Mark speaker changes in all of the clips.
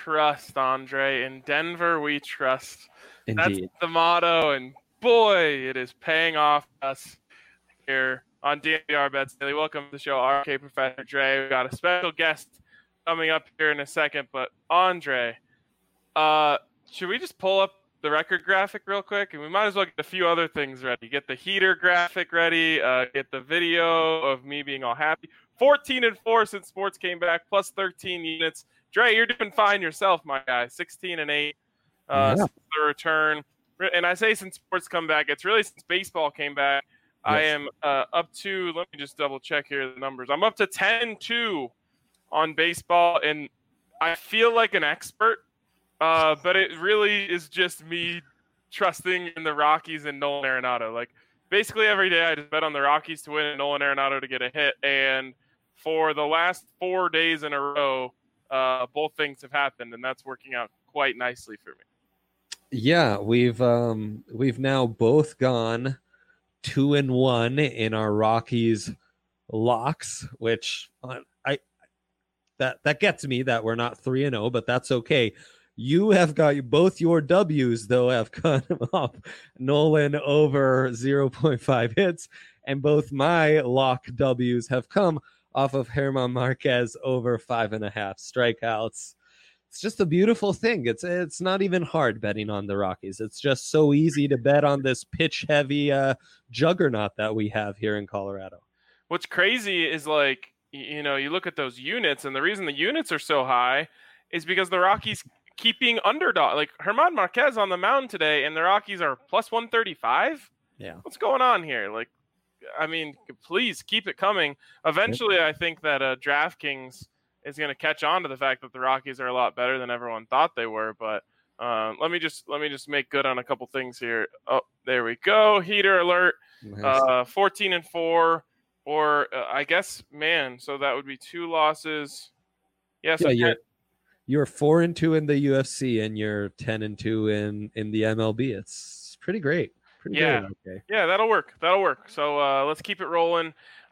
Speaker 1: trust, Andre. In Denver, we trust.
Speaker 2: Indeed.
Speaker 1: That's the motto, and boy, it is paying off us here on DNVR Bets Daily. Welcome to the show, RK Professor Dre. We got a special guest coming up here in a second, but Andre, should we just pull up the record graphic real quick? And we might as well get a few other things ready. Get the heater graphic ready, get the video of me being all happy. 14-4 since sports came back, plus 13 units. Dre, you're doing fine yourself, my guy. 16-8 since the return. And I say since sports come back, it's really since baseball came back. Yes. I am up to, let me just double check here the numbers. I'm up to 10-2 on baseball, and I feel like an expert, but it really is just me trusting in the Rockies and Nolan Arenado. Like, basically every day I just bet on the Rockies to win and Nolan Arenado to get a hit, and for the last 4 days in a row, both things have happened, and that's working out quite nicely for me.
Speaker 2: Yeah, we've now both gone 2-1 in our Rockies locks, which that gets me that we're not 3-0, but that's okay. You have got both your W's though have come up. Nolan over 0.5 hits, and both my lock W's have come off of German Marquez over 5.5 strikeouts. It's just a beautiful thing. It's not even hard betting on the Rockies. It's just so easy to bet on this pitch-heavy juggernaut that we have here in Colorado.
Speaker 1: What's crazy is, like, you know, you look at those units, and the reason the units are so high is because the Rockies keeping underdog. Like, German Marquez on the mound today, and the Rockies are plus 135?
Speaker 2: Yeah.
Speaker 1: What's going on here? Like, I mean, please keep it coming. Eventually, I think that DraftKings is going to catch on to the fact that the Rockies are a lot better than everyone thought they were. But let me just make good on a couple things here. Oh, there we go. Heater alert. Nice. 14-4, or I guess, man. So that would be 2 losses. Yes. Yeah,
Speaker 2: you're 4-2 in the UFC, and you're 10-2 in the MLB. It's pretty great. Pretty
Speaker 1: yeah.
Speaker 2: great. Okay.
Speaker 1: Yeah, that'll work. So let's keep it rolling.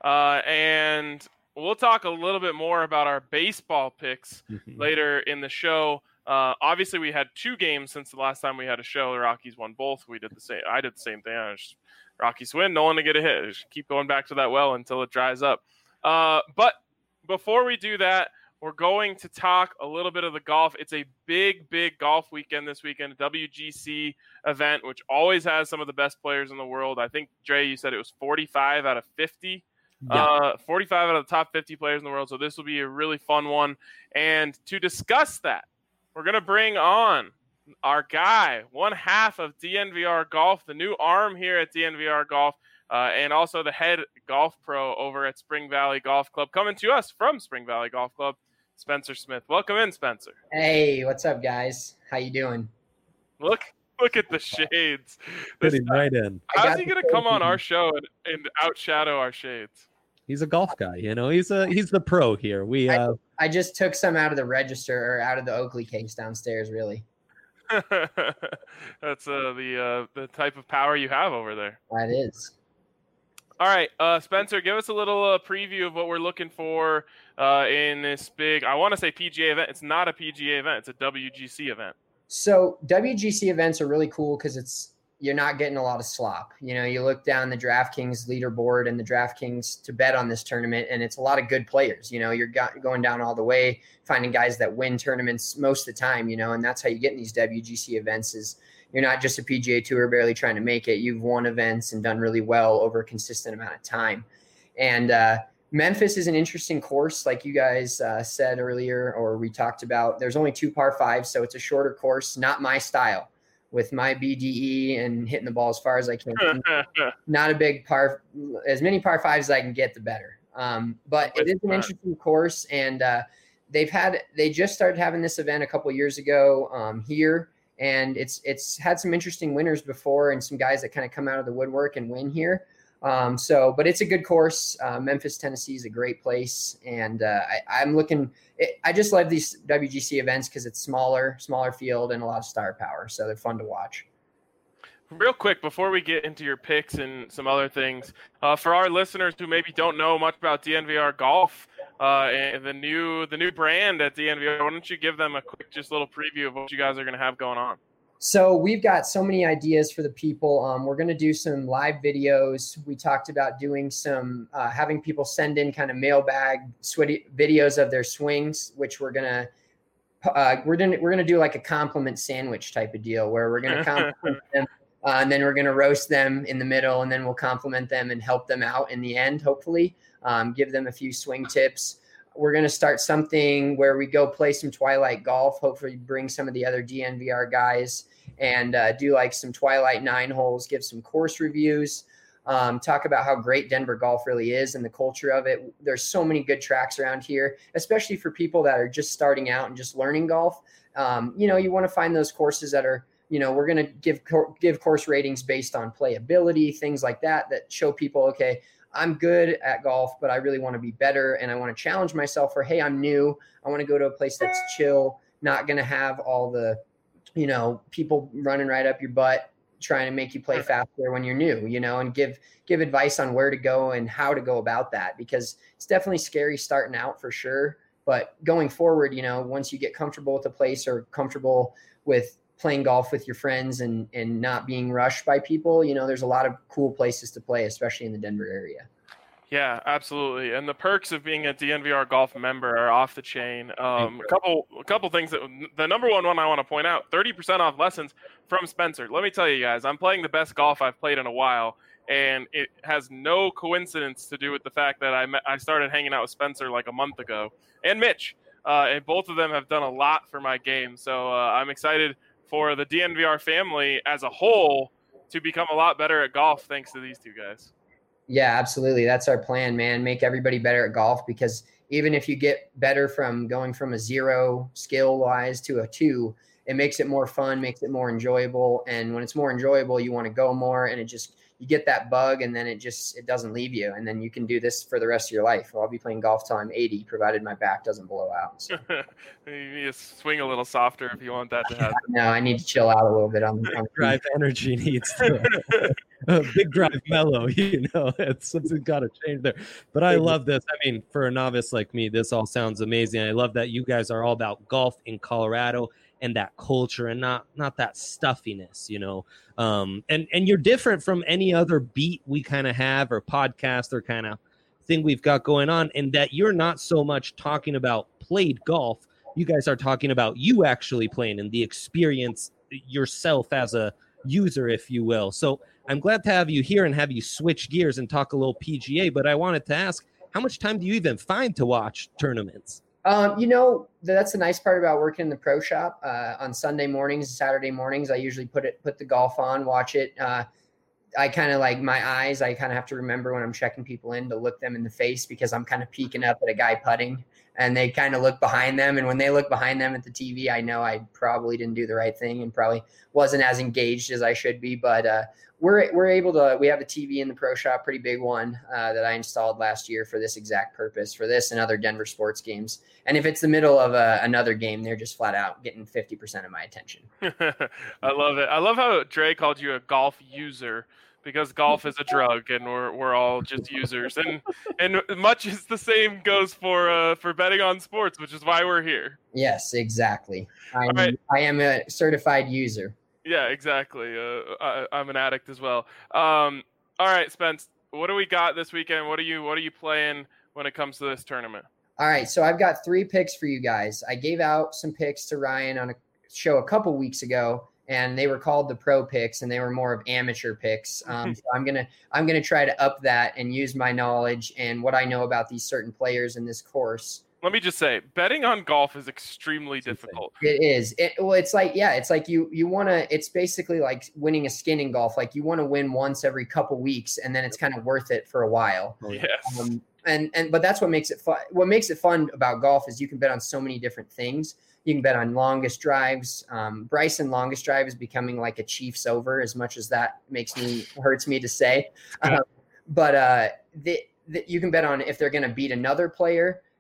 Speaker 1: And we'll talk a little bit more about our baseball picks later in the show. Obviously, we had 2 games since the last time we had a show. The Rockies won both. We did the same. I did the same thing. Rockies win, no one to get a hit. Just keep going back to that well until it dries up. But before we do that, we're going to talk a little bit of the golf. It's a big, big golf weekend this weekend, a WGC event, which always has some of the best players in the world. I think, Dre, you said it was 45 out of 50. Yeah. 45 out of the top 50 players in the world. So this will be a really fun one. And to discuss that, we're going to bring on our guy, one half of DNVR Golf, the new arm here at DNVR Golf, and also the head golf pro over at Spring Valley Golf Club, coming to us from Spring Valley Golf Club, Spencer Smith. Welcome in, Spencer.
Speaker 3: Hey, what's up, guys? How you doing?
Speaker 1: Look at the shades.
Speaker 2: Fitting right in.
Speaker 1: How's he going to come on our show and outshadow our shades?
Speaker 2: He's a golf guy, you know. He's the pro here.
Speaker 3: I just took some out of the register, or out of the Oakley case downstairs, really.
Speaker 1: That's the type of power you have over there.
Speaker 3: That is.
Speaker 1: All right, Spencer, give us a little preview of what we're looking for in this big, I want to say PGA event. It's not a PGA event. It's a WGC event.
Speaker 3: So WGC events are really cool because you're not getting a lot of slop. You know, you look down the DraftKings leaderboard and the DraftKings to bet on this tournament, and it's a lot of good players. You know, you're going down all the way, finding guys that win tournaments most of the time, you know, and that's how you get in these WGC events is you're not just a PGA Tour barely trying to make it. You've won events and done really well over a consistent amount of time. And Memphis is an interesting course, like you guys said earlier, or we talked about. There's only 2 par 5s, so it's a shorter course, not my style. With my BDE and hitting the ball as far as I can. Not a big par, as many par 5s as I can get, the better. But it is an interesting course, and they just started having this event a couple years ago here, and it's had some interesting winners before and some guys that kind of come out of the woodwork and win here. But it's a good course. Memphis, Tennessee is a great place. And I just love these WGC events because it's smaller field and a lot of star power. So they're fun to watch.
Speaker 1: Real quick, before we get into your picks and some other things, for our listeners who maybe don't know much about DNVR Golf, and the new brand at DNVR. Why don't you give them a quick, just little preview of what you guys are going to have going on?
Speaker 3: So we've got so many ideas for the people. We're going to do some live videos. We talked about doing some, having people send in kind of mailbag videos of their swings, which we're going to do like a compliment sandwich type of deal where we're going to compliment them. And then we're going to roast them in the middle, and then we'll compliment them and help them out in the end, hopefully, give them a few swing tips. We're going to start something where we go play some Twilight golf, hopefully bring some of the other DNVR guys and do like some Twilight 9 holes, give some course reviews, talk about how great Denver golf really is and the culture of it. There's so many good tracks around here, especially for people that are just starting out and just learning golf. You want to find those courses that are, we're going to give course ratings based on playability, things like that show people, okay, I'm good at golf, but I really want to be better. And I want to challenge myself for, hey, I'm new. I want to go to a place that's chill, not going to have all the, people running right up your butt, trying to make you play faster when you're new, and give advice on where to go and how to go about that, because it's definitely scary starting out for sure. But going forward, once you get comfortable with a place or comfortable with playing golf with your friends and not being rushed by people, there's a lot of cool places to play, especially in the Denver area.
Speaker 1: Yeah, absolutely. And the perks of being a DNVR golf member are off the chain. A couple things the number one I want to point out, 30% off lessons from Spencer. Let me tell you guys, I'm playing the best golf I've played in a while, and it has no coincidence to do with the fact that I started hanging out with Spencer like a month ago, and Mitch. And both of them have done a lot for my game. So I'm excited for the DNVR family as a whole to become a lot better at golf thanks to these two guys.
Speaker 3: Yeah, absolutely. That's our plan, man. Make everybody better at golf, because even if you get better from going from a 0 skill wise to a 2, it makes it more fun, makes it more enjoyable. And when it's more enjoyable, you want to go more, and you get that bug, and then it doesn't leave you. And then you can do this for the rest of your life. I'll be playing golf till I'm 80, provided my back doesn't blow out. So.
Speaker 1: You need to swing a little softer if you want that to happen.
Speaker 3: No, I need to chill out a little bit on
Speaker 2: drive energy needs to big drive mellow, it's something got to change there. But I love this. I mean, for a novice like me, this all sounds amazing. I love that you guys are all about golf in Colorado and that culture, and not that stuffiness, and you're different from any other beat we kind of have or podcast or kind of thing we've got going on, in that you're not so much talking about played golf. You guys are talking about you actually playing and the experience yourself as a user, if you will. So I'm glad to have you here and have you switch gears and talk a little PGA, but I wanted to ask, how much time do you even find to watch tournaments?
Speaker 3: That's the nice part about working in the pro shop. On Sunday mornings, Saturday mornings, I usually put the golf on, watch it. I kind of like my eyes. I kind of have to remember when I'm checking people in to look them in the face, because I'm kind of peeking up at a guy putting, and they kind of look behind them. And when they look behind them at the TV, I know I probably didn't do the right thing and probably wasn't as engaged as I should be. But we're able to. We have a TV in the pro shop, pretty big one that I installed last year for this exact purpose, for this and other Denver sports games. And if it's the middle of another game, they're just flat out getting 50% of my attention.
Speaker 1: I love it. I love how Dre called you a golf user, because golf is a drug and we're all just users. And much is the same goes for betting on sports, which is why we're here.
Speaker 3: Yes, exactly. I am a certified user.
Speaker 1: Yeah, exactly. I'm an addict as well. All right, Spence, what do we got this weekend? What are you playing when it comes to this tournament?
Speaker 3: All right, so I've got 3 picks for you guys. I gave out some picks to Ryan on a show a couple weeks ago, and they were called the pro picks, and they were more of amateur picks. So I'm gonna try to up that and use my knowledge and what I know about these certain players in this course.
Speaker 1: Let me just say, betting on golf is extremely difficult.
Speaker 3: It is. It's like you want to. It's basically like winning a skin in golf. Like you want to win once every couple weeks, and then it's kind of worth it for a while.
Speaker 1: Yes.
Speaker 3: But that's what makes it fun. What makes it fun about golf is you can bet on so many different things. You can bet on longest drives. Bryson longest drive is becoming like a Chiefs over, as much as that hurts me to say. But you can bet on if they're going to beat another player.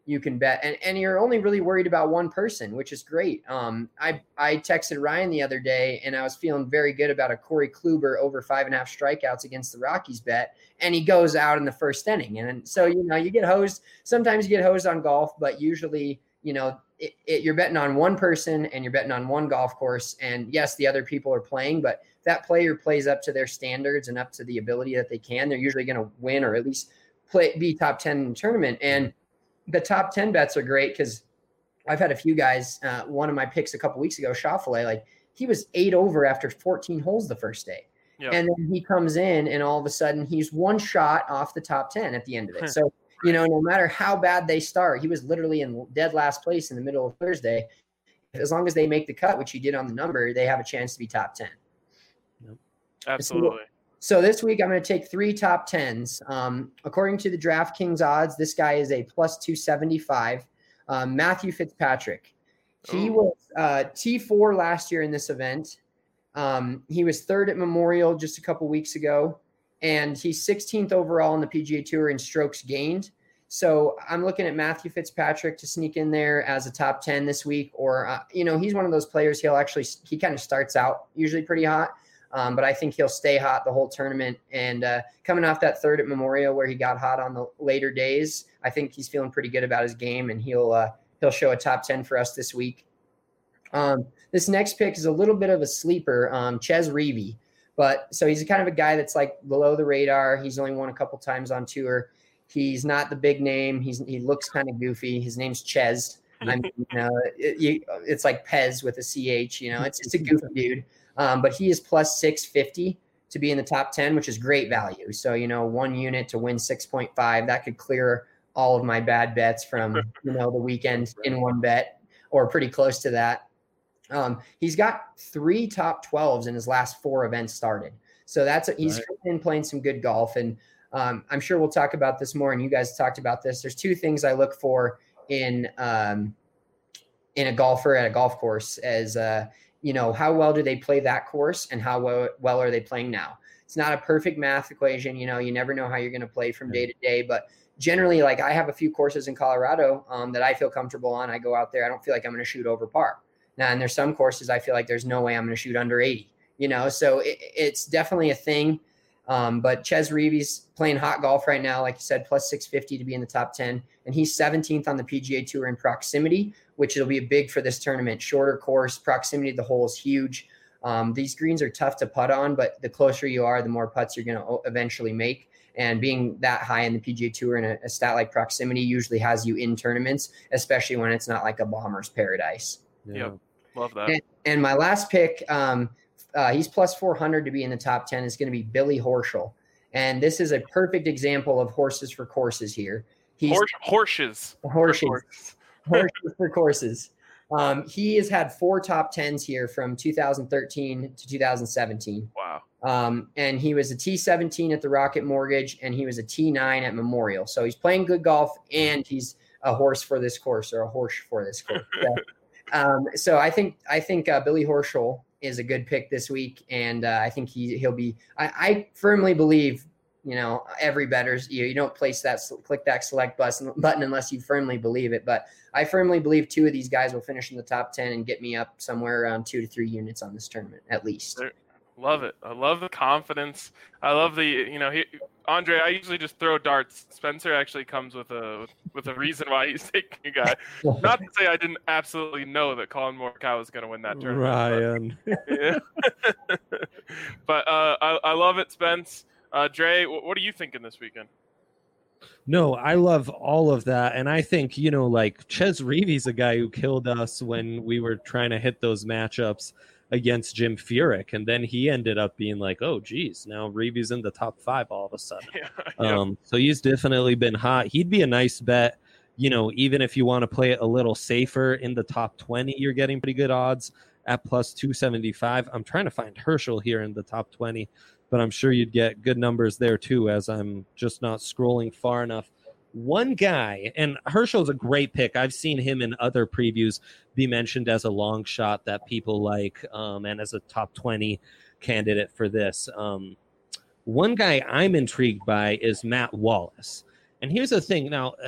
Speaker 3: you can bet, and you're only really worried about one person, which is great. I texted Ryan the other day, and I was feeling very good about a Corey Kluber over 5.5 strikeouts against the Rockies bet, and he goes out in the first inning, and so you get hosed. Sometimes you get hosed on golf, but usually you're betting on one person and you're betting on one golf course, and yes, the other people are playing, but if that player plays up to their standards and up to the ability that they can, they're usually going to win or at least be top 10 in the tournament. And the top 10 bets are great because I've had a few guys. One of my picks a couple weeks ago, Schauffele, like he was 8 over after 14 holes the first day. Yep. And then he comes in and all of a sudden he's one shot off the top 10 at the end of it. So, no matter how bad they start, he was literally in dead last place in the middle of Thursday. As long as they make the cut, which he did on the number, they have a chance to be top 10.
Speaker 1: Yep. Absolutely.
Speaker 3: So this week I'm going to take 3 top 10s. According to the DraftKings odds, this guy is a plus 275. Matthew Fitzpatrick. He was T4 last year in this event. He was 3rd at Memorial just a couple weeks ago, and he's 16th overall in the PGA Tour in strokes gained. So I'm looking at Matthew Fitzpatrick to sneak in there as a top 10 this week, or he's one of those players. He kind of starts out usually pretty hot. But I think he'll stay hot the whole tournament. And coming off that 3rd at Memorial where he got hot on the later days, I think he's feeling pretty good about his game, and he'll show a top 10 for us this week. This next pick is a little bit of a sleeper, Chez Reavie. But so he's kind of a guy that's like below the radar. He's only won a couple times on tour. He's not the big name. He looks kind of goofy. His name's Chez. It's like Pez with a CH. It's just a goofy dude. But he is plus 650 to be in the top 10, which is great value. So, 1 unit to win 6.5, that could clear all of my bad bets from, the weekend in one bet, or pretty close to that. He's got 3 top 12s in his last 4 events started. So he's been playing some good golf. And I'm sure we'll talk about this more, and you guys talked about this. There's 2 things I look for in a golfer at a golf course as how well do they play that course, and how well are they playing now? It's not a perfect math equation. You never know how you're going to play from day to day, but generally, like I have a few courses in Colorado that I feel comfortable on. I go out there. I don't feel like I'm going to shoot over par. Now, and there's some courses I feel like there's no way I'm going to shoot under 80, so it's definitely a thing. But Chez Reavie's playing hot golf right now, like you said, plus 650 to be in the top 10. And he's 17th on the PGA Tour in proximity, which will be big for this tournament. Shorter course, proximity to the hole is huge. These greens are tough to putt on, but the closer you are, the more putts you're going to eventually make. And being that high in the PGA Tour in a stat like proximity usually has you in tournaments, especially when it's not like a bomber's paradise.
Speaker 1: Yep. Love that.
Speaker 3: And my last pick, he's plus 400 to be in the top 10, is going to be Billy Horschel. And this is a perfect example of horses for courses here.
Speaker 1: Horses
Speaker 3: for courses. He has had 4 top 10s here from 2013 to 2017.
Speaker 1: Wow.
Speaker 3: And he was a T17 at the Rocket Mortgage, and he was a T9 at Memorial. So he's playing good golf, and he's a horse for this course, or a horse for this course. So I think Billy Horschel is a good pick this week, and I think he'll be. I firmly believe, every bettor's. You don't click that select button unless you firmly believe it. But I firmly believe 2 of these guys will finish in the top 10 and get me up somewhere around 2 to 3 units on this tournament at least.
Speaker 1: Love it. I love the confidence. I love Andre. I usually just throw darts. Spencer actually comes with a reason why he's taking a guy. Not to say I didn't absolutely know that Colin Morikawa was going to win that tournament.
Speaker 2: Ryan.
Speaker 1: But I love it, Spence. Dre, what are you thinking this weekend?
Speaker 2: No, I love all of that. And I think, like Chez Reavie's a guy who killed us when we were trying to hit those matchups against Jim Furyk, and then he ended up being like, oh geez, now Reavie's in the top 5 all of a sudden. So he's definitely been hot. He'd be a nice bet, even if you want to play it a little safer in the top 20, you're getting pretty good odds at plus 275. I'm trying to find Herschel here in the top 20, but I'm sure you'd get good numbers there too, as I'm just not scrolling far enough. One guy, and Herschel's a great pick. I've seen him in other previews be mentioned as a long shot that people like, and as a top 20 candidate for this. One guy I'm intrigued by is Matt Wallace. And here's the thing. Now,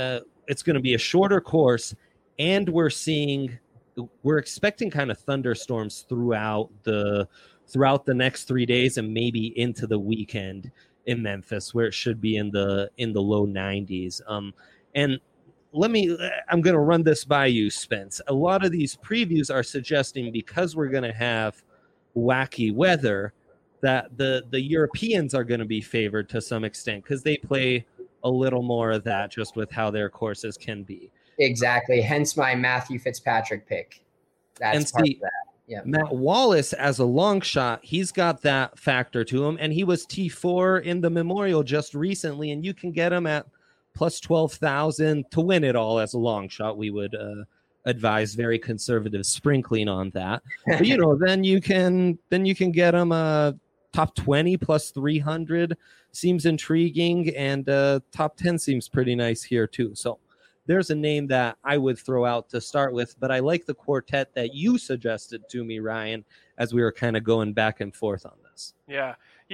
Speaker 2: it's going to be a shorter course, and we're expecting kind of thunderstorms throughout the next 3 days and maybe into the weekend in Memphis, where it should be in the low 90s. And I'm going to run this by you, Spence. A lot of these previews are suggesting, because we're going to have wacky weather, that the Europeans are going to be favored to some extent, because they play a little more of that just with how their courses can be.
Speaker 3: Exactly. Hence my Matthew Fitzpatrick pick. That's part of that. Yeah.
Speaker 2: Matt Wallace, as a long shot, he's got that factor to him, and he was T4 in the Memorial just recently, and you can get him at plus 12,000 to win it all as a long shot. We would advise very conservative sprinkling on that. But then you can get him top 20 plus 300 seems intriguing, and top 10 seems pretty nice here too. So there's a name that I would throw out to start with, but I like the quartet that you suggested to me, Ryan, as we were kind of going back and forth on this.
Speaker 1: Yeah.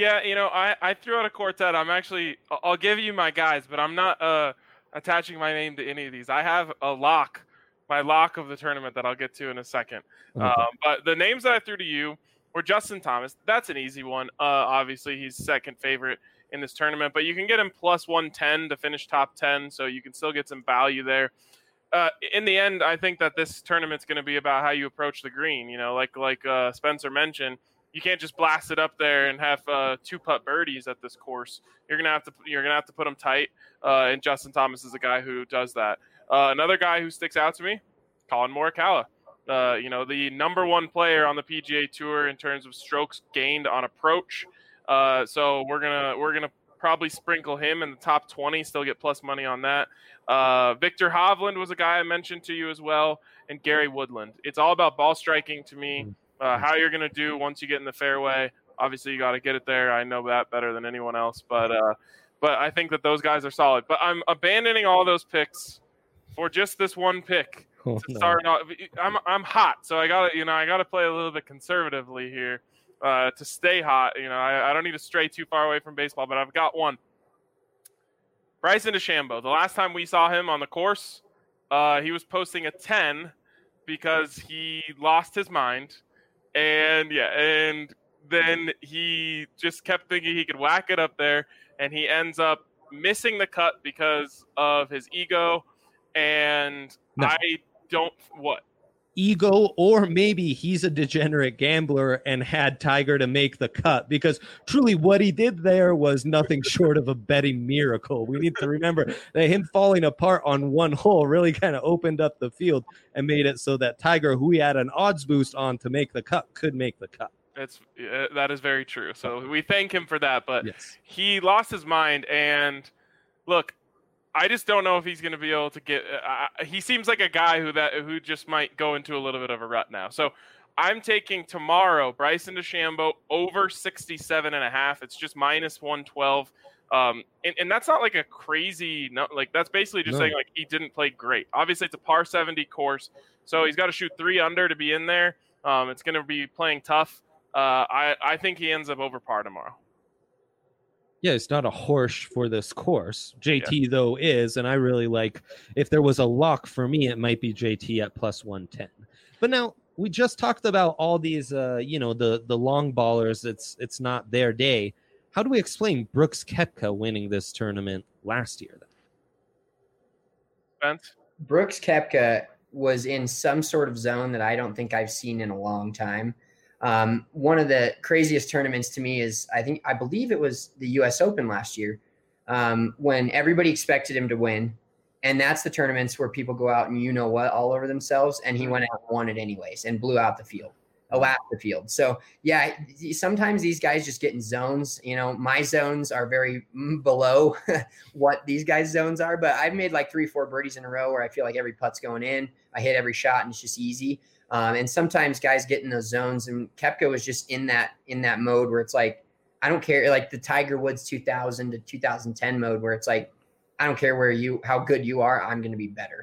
Speaker 1: I threw out a quartet. I'll give you my guys, but I'm not attaching my name to any of these. I have my lock of the tournament that I'll get to in a second.
Speaker 2: Okay.
Speaker 1: But the names that I threw to you were Justin Thomas. That's an easy one. Obviously, he's second favorite in this tournament, but you can get him plus 110 to finish top 10, so you can still get some value there. In the end, I think that this tournament's going to be about how you approach the green. Like Spencer mentioned, you can't just blast it up there and have 2-putt birdies at this course. You're gonna have to put them tight. And Justin Thomas is a guy who does that. Another guy who sticks out to me, Colin Morikawa. The number one player on the PGA Tour in terms of strokes gained on approach. So we're gonna probably sprinkle him in the top 20. Still get plus money on that. Victor Hovland was a guy I mentioned to you as well, and Gary Woodland. It's all about ball striking to me. How you're going to do once you get in the fairway. Obviously, you got to get it there. I know that better than anyone else. But I think that those guys are solid. But I'm abandoning all those picks for just this one pick. Start off. I'm hot, so I gotta play a little bit conservatively here to stay hot. I don't need to stray too far away from baseball, but I've got one. Bryson DeChambeau. The last time we saw him on the course, he was posting a 10 because he lost his mind. And then he just kept thinking he could whack it up there, and he ends up missing the cut because of his ego. And
Speaker 2: No. Ego, or maybe he's a degenerate gambler and had Tiger to make the cut, because truly what he did there was nothing short of a betting miracle. We need to remember that him falling apart on one hole really kind of opened up the field and made it so that Tiger, who he had an odds boost on to make the cut, could make the cut.
Speaker 1: That is very true. So we thank him for that, but
Speaker 2: yes,
Speaker 1: he lost his mind. And look, I just don't know if he's going to be able to get. He seems like a guy who just might go into a little bit of a rut now. So I'm taking tomorrow Bryson DeChambeau over 67.5. It's just minus 112. And that's not like a crazy. No, like that's basically just saying like he didn't play great. Obviously, it's a par 70 course, so he's got to shoot 3 under to be in there. It's going to be playing tough. I think he ends up over par tomorrow.
Speaker 2: Yeah, it's not a horse for this course. JT, though, is, and I really like, if there was a lock for me, it might be JT at plus 110. But now, we just talked about all these, the long ballers. It's not their day. How do we explain Brooks Koepka winning this tournament last year, then?
Speaker 1: Spence?
Speaker 3: Brooks Koepka was in some sort of zone that I don't think I've seen in a long time. One of the craziest tournaments to me is, I believe it was the US Open last year, when everybody expected him to win. And that's the tournaments where people go out and all over themselves. And he went out and won it anyways and blew out the field, lapped the field. So yeah, sometimes these guys just get in zones. My zones are very below what these guys' zones are, but I've made like 3-4 birdies in a row where I feel like every putt's going in. I hit every shot and it's just easy. And sometimes guys get in those zones, and Koepka was just in that mode where it's like, I don't care, like the Tiger Woods 2000 to 2010 mode where it's like, I don't care how good you are, I'm going to be better.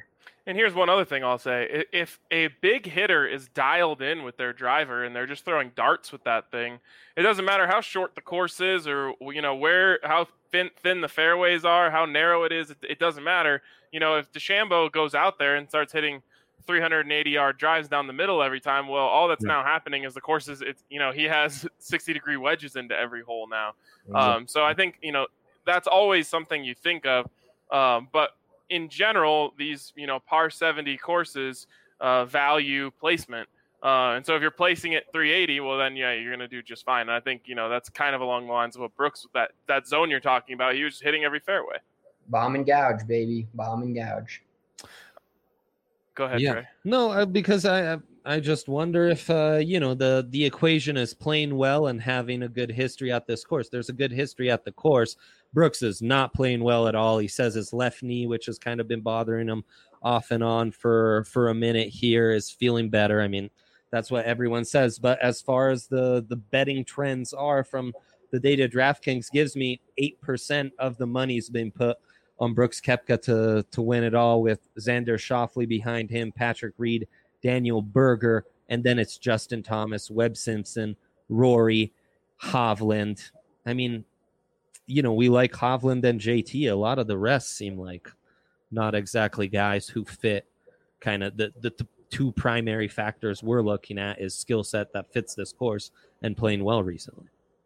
Speaker 1: And here's one other thing I'll say. If a big hitter is dialed in with their driver and they're just throwing darts with that thing, it doesn't matter how short the course is or, how thin the fairways are, how narrow it is. It doesn't matter. If DeChambeau goes out there and starts hitting 380-yard drives down the middle every time, well, all that's now happening is the course is, he has 60-degree wedges into every hole now. So I think, that's always something you think of. But in general, these, par 70 courses value placement. And so if you're placing it 380, well, then, you're going to do just fine. And I think, that's kind of along the lines of what Brooks, that zone you're talking about, he was just hitting every fairway.
Speaker 3: Bomb and gouge, baby. Bomb and gouge.
Speaker 1: Go ahead, Trey.
Speaker 2: No, because I just wonder if, the equation is playing well and having a good history at this course. There's a good history at the course. Brooks is not playing well at all. He says his left knee, which has kind of been bothering him off and on for a minute here, is feeling better. I mean, that's what everyone says. But as far as the betting trends are from the data DraftKings gives me, 8% of the money's been put on Brooks Koepka to win it all, with Xander Schauffele behind him, Patrick Reed, Daniel Berger, and then it's Justin Thomas, Webb Simpson, Rory, Hovland. I mean, we like Hovland and JT. A lot of the rest seem like not exactly guys who fit kind of the two primary factors we're looking at is skill set that fits this course and playing well recently.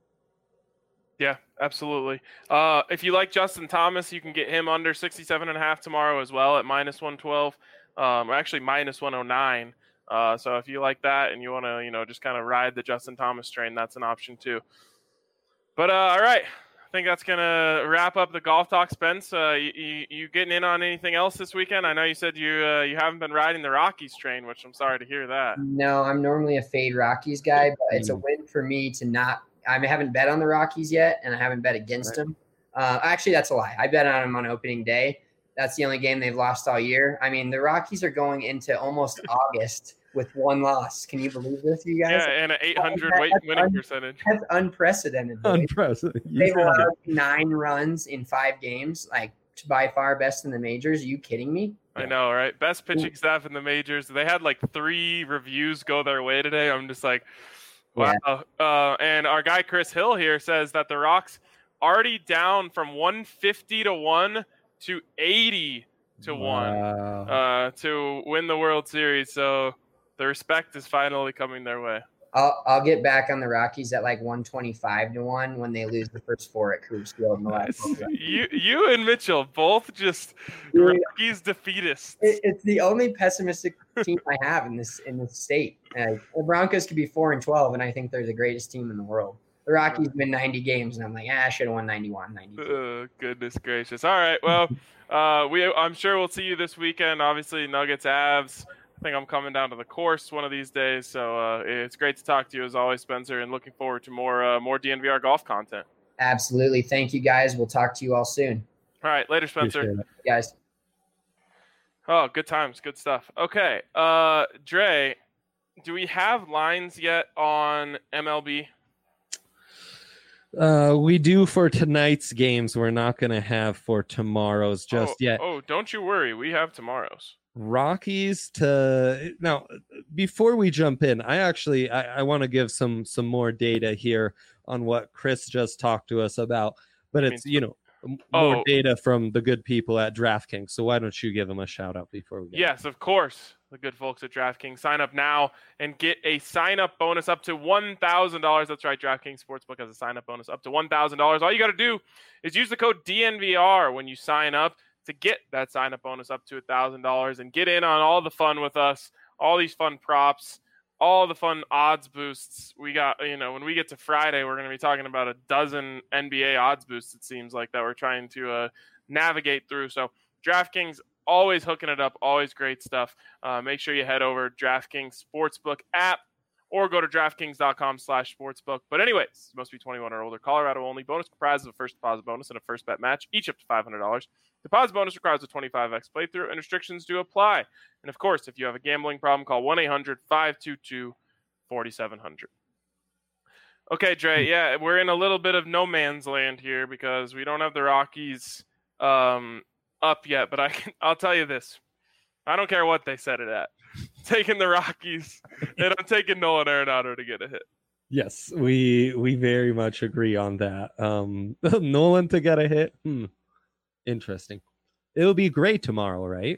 Speaker 1: Yeah, absolutely. If you like Justin Thomas, you can get him under 67.5 tomorrow as well at -112, or actually -109. So if you like that and you want to, just kind of ride the Justin Thomas train, that's an option too. But all right, I think that's gonna wrap up the golf talk. Spence, you getting in on anything else this weekend? I know you said you haven't been riding the Rockies train, which I'm sorry to hear that.
Speaker 3: No, I'm normally a fade Rockies guy, but it's a win for me to not. I haven't bet on the Rockies yet, and I haven't bet against them. Actually, that's a lie. I bet on them on opening day. That's the only game they've lost all year. I mean, the Rockies are going into almost August with one loss. Can you believe this, you guys?
Speaker 1: Yeah, and an 800 winning percentage.
Speaker 3: That's unprecedented.
Speaker 2: Unprecedented.
Speaker 3: They've allowed 9 runs in 5 games, like by far best in the majors. Are you kidding me?
Speaker 1: I know, right? Best pitching staff in the majors. They had like 3 reviews go their way today. I'm just like, wow. Yeah. And our guy Chris Hill here says that the Rocks already down from 150 to 1 to 80 to 1 to win the World Series. So the respect is finally coming their way.
Speaker 3: I'll get back on the Rockies at like 125 to 1 when they lose the first 4 at Coors Field.
Speaker 1: You and Mitchell both just Rockies defeatists.
Speaker 3: It's the only pessimistic team I have in this state. The Broncos could be 4-12, and I think they're the greatest team in the world. The Rockies win 90 games, and I'm like, I should have won 91, 92.
Speaker 1: Goodness gracious! All right, well, I'm sure we'll see you this weekend. Obviously, Nuggets, Avs. I think I'm coming down to the course one of these days, so it's great to talk to you as always, Spencer, and looking forward to more DNVR golf content.
Speaker 3: Absolutely. Thank you, guys. We'll talk to you all soon.
Speaker 1: All right. Later, Spencer.
Speaker 3: Guys.
Speaker 1: Oh, good times. Good stuff. Okay. Dre, do we have lines yet on MLB?
Speaker 2: We do for tonight's games. We're not going to have for tomorrow's just yet.
Speaker 1: Oh, don't you worry. We have tomorrow's.
Speaker 2: Rockies now, before we jump in, I want to give some more data here on what Chris just talked to us about, but it's more data from the good people at DraftKings. So why don't you give them a shout out before we go?
Speaker 1: Yes, of course. The good folks at DraftKings. Sign up now and get a sign-up bonus up to $1,000. That's right, DraftKings Sportsbook has a sign-up bonus up to $1,000. All you got to do is use the code DNVR when you sign up to get that sign-up bonus up to $1,000 and get in on all the fun with us, all these fun props, all the fun odds boosts. We got, when we get to Friday, we're going to be talking about a dozen NBA odds boosts, it seems like, that we're trying to navigate through. So DraftKings, always hooking it up, always great stuff. Make sure you head over to DraftKings Sportsbook app or go to DraftKings.com/sportsbook. But anyways, you must be 21 or older. Colorado only. Bonus comprised of a first deposit bonus and a first bet match, each up to $500. Deposit bonus requires a 25x playthrough, and restrictions do apply. And of course, if you have a gambling problem, call 1-800-522-4700. Okay, Dre, yeah, we're in a little bit of no man's land here because we don't have the Rockies up yet. But I'll tell you this. I don't care what they set it at. Taking the Rockies, and I'm taking Nolan Arenado to get a hit.
Speaker 2: Yes, we very much agree on that. Nolan to get a hit. Interesting. It'll be great tomorrow, right?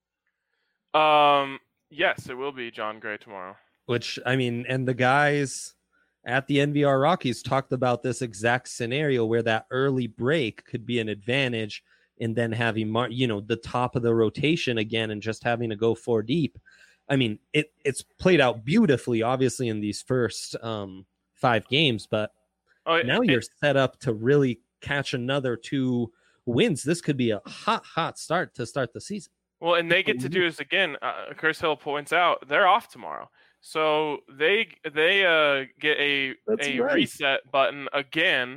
Speaker 1: Yes, it will be John Gray tomorrow.
Speaker 2: Which, I mean, and the guys at the NVR Rockies talked about this exact scenario where that early break could be an advantage, and then having the top of the rotation again and just having to go 4 deep. I mean, it's played out beautifully, obviously, in these first 5 games, but now you're set up to really catch another 2 wins. This could be a hot start to start the season.
Speaker 1: Well, and they get to do this again. Chris Hill points out they're off tomorrow, so they get a reset button again,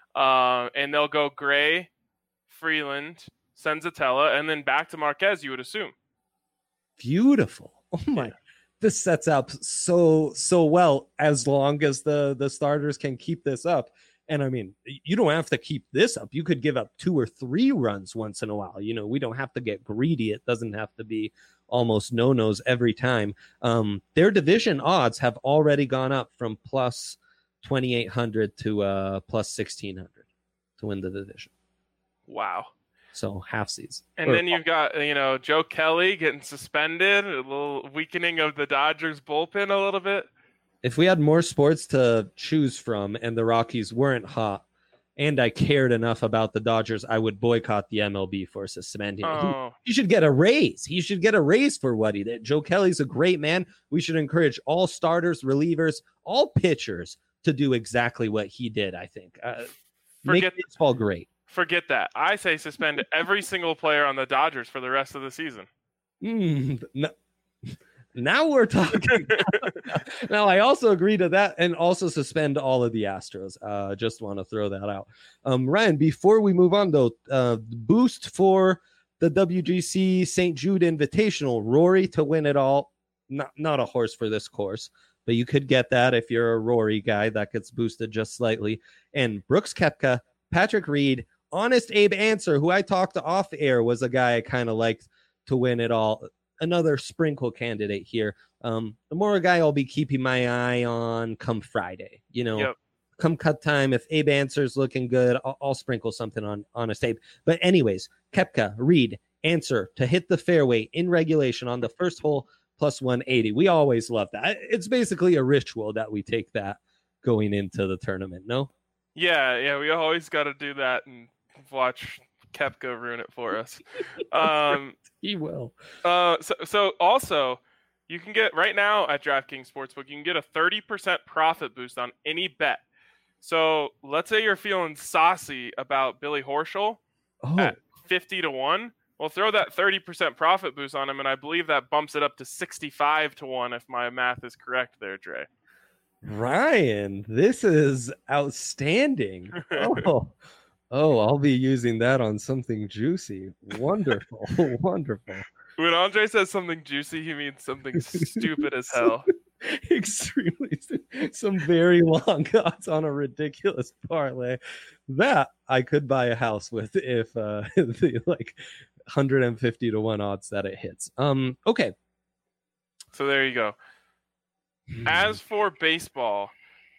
Speaker 1: and they'll go Gray, Freeland, Senzatella, and then back to Marquez. You would assume.
Speaker 2: Beautiful. Oh my! This sets up so well as long as the starters can keep this up. And I mean, you don't have to keep this up. You could give up 2 or 3 runs once in a while. We don't have to get greedy. It doesn't have to be almost no-nos every time. Their division odds have already gone up from plus 2,800 to plus 1,600 to win the division.
Speaker 1: Wow.
Speaker 2: So half season.
Speaker 1: And then you've got, Joe Kelly getting suspended, a little weakening of the Dodgers bullpen a little bit.
Speaker 2: If we had more sports to choose from and the Rockies weren't hot and I cared enough about the Dodgers, I would boycott the MLB for suspending him. He should get a raise. He should get a raise for what he did. Joe Kelly's a great man. We should encourage all starters, relievers, all pitchers to do exactly what he did, I think. Make baseball great.
Speaker 1: Forget that. I say suspend every single player on the Dodgers for the rest of the season.
Speaker 2: No. Now we're talking. Now, I also agree to that and also suspend all of the Astros. Just want to throw that out. Ryan, before we move on, though, boost for the WGC St. Jude Invitational. Rory to win it all. Not a horse for this course, but you could get that if you're a Rory guy. That gets boosted just slightly. And Brooks Koepka, Patrick Reed, Honest Abe Answer, who I talked to off air, was a guy I kind of liked to win it all. Another sprinkle candidate here. The more a guy I'll be keeping my eye on come Friday. Come cut time, if Abe Answer's looking good, I'll sprinkle something on Honest Abe. But anyways, Koepka, Reed, Answer to hit the fairway in regulation on the first hole plus 180. We always love that. It's basically a ritual that we take that going into the tournament, no?
Speaker 1: Yeah, we always got to do that and watch Koepka ruin it for us.
Speaker 2: He will.
Speaker 1: So also, you can get right now at DraftKings Sportsbook, you can get a 30% profit boost on any bet. So let's say you're feeling saucy about Billy Horschel at 50-1. Well, throw that 30% profit boost on him, and I believe that bumps it up to 65-1 if my math is correct there, Dre.
Speaker 2: Ryan, this is outstanding. I'll be using that on something juicy. Wonderful. Wonderful.
Speaker 1: When Andre says something juicy, he means something stupid as hell.
Speaker 2: Extremely. Some very long odds on a ridiculous parlay that I could buy a house with if the 150-1 odds that it hits. Okay.
Speaker 1: So there you go. As for baseball,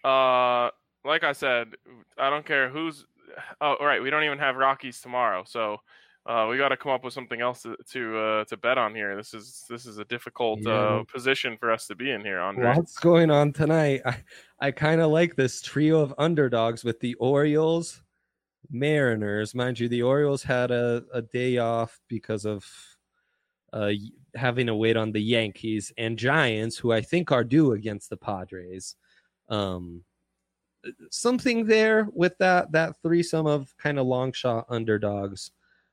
Speaker 1: like I said, I don't care who's. Oh, right. We don't even have Rockies tomorrow, so we got to come up with something else to bet on here. This is a difficult position for us to be in here, Andre.
Speaker 2: What's going on tonight? I kind of like this trio of underdogs with the Orioles, Mariners. Mind you, the Orioles had a day off because of having to wait on the Yankees, and Giants, who I think are due against the Padres. Something there with that threesome of kind of long shot underdogs.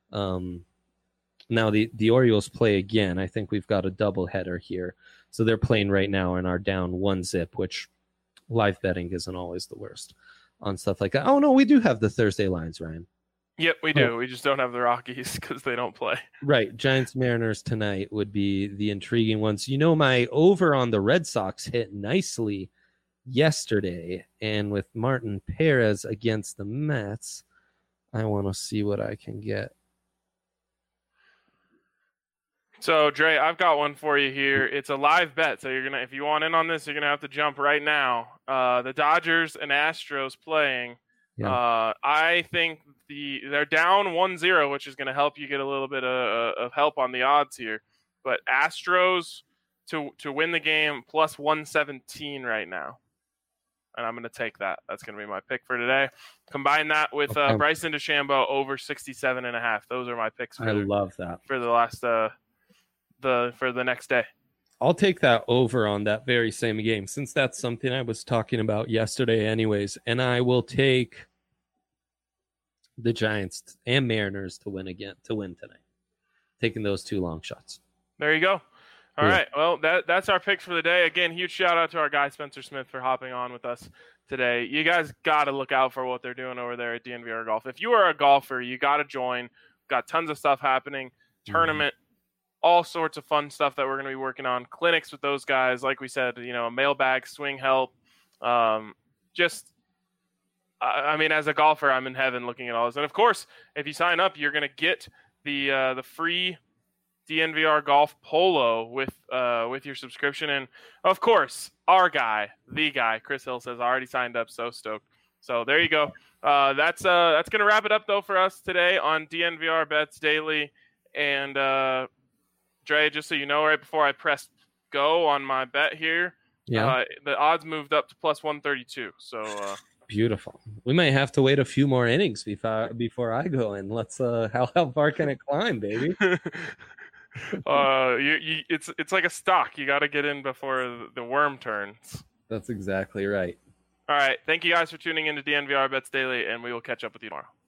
Speaker 2: Now the Orioles play again. I think we've got a double header here. So they're playing right now and are down 1-0, which live betting isn't always the worst on stuff like that. Oh no, we do have the Thursday lines, Ryan.
Speaker 1: Yep, we do. We just don't have the Rockies because they don't play.
Speaker 2: Right. Giants Mariners tonight would be the intriguing ones. My over on the Red Sox hit nicely yesterday, and with Martin Perez against the Mets, I want to see what I can get.
Speaker 1: So Dre, I've got one for you here. It's a live bet, so if you want in on this, you're gonna have to jump right now. The Dodgers and Astros playing.
Speaker 2: Yeah.
Speaker 1: I think they're down 1-0, which is gonna help you get a little bit of help on the odds here. But Astros to win the game plus 117 right now. And I'm going to take that. That's going to be my pick for today. Combine that with Bryson DeChambeau over 67.5. Those are my picks.
Speaker 2: I love that
Speaker 1: for the last for the next day.
Speaker 2: I'll take that over on that very same game, since that's something I was talking about yesterday, anyways. And I will take the Giants and Mariners to win tonight. Taking those two long shots.
Speaker 1: There you go. All right. Well, that's our picks for the day. Again, huge shout out to our guy Spencer Smith for hopping on with us today. You guys got to look out for what they're doing over there at DNVR Golf. If you are a golfer, you got to join. Got tons of stuff happening. Tournament, all sorts of fun stuff that we're going to be working on. Clinics with those guys, like we said, mailbag, swing help. I mean, as a golfer, I'm in heaven looking at all this. And of course, if you sign up, you're going to get the free DNVR Golf Polo with your subscription. And of course, our guy, the guy, Chris Hill says, already signed up. So stoked. So there you go. That's going to wrap it up though for us today on DNVR Bets Daily. And Dre, just so you know, right before I pressed go on my bet here, the odds moved up to plus 132. So
Speaker 2: beautiful. We might have to wait a few more innings before I go in. Let's how far can it climb, baby?
Speaker 1: It's like a stock. You got to get in before the worm turns.
Speaker 2: That's exactly right.
Speaker 1: All right. Thank you guys for tuning in to DNVR Bets Daily, and we will catch up with you tomorrow.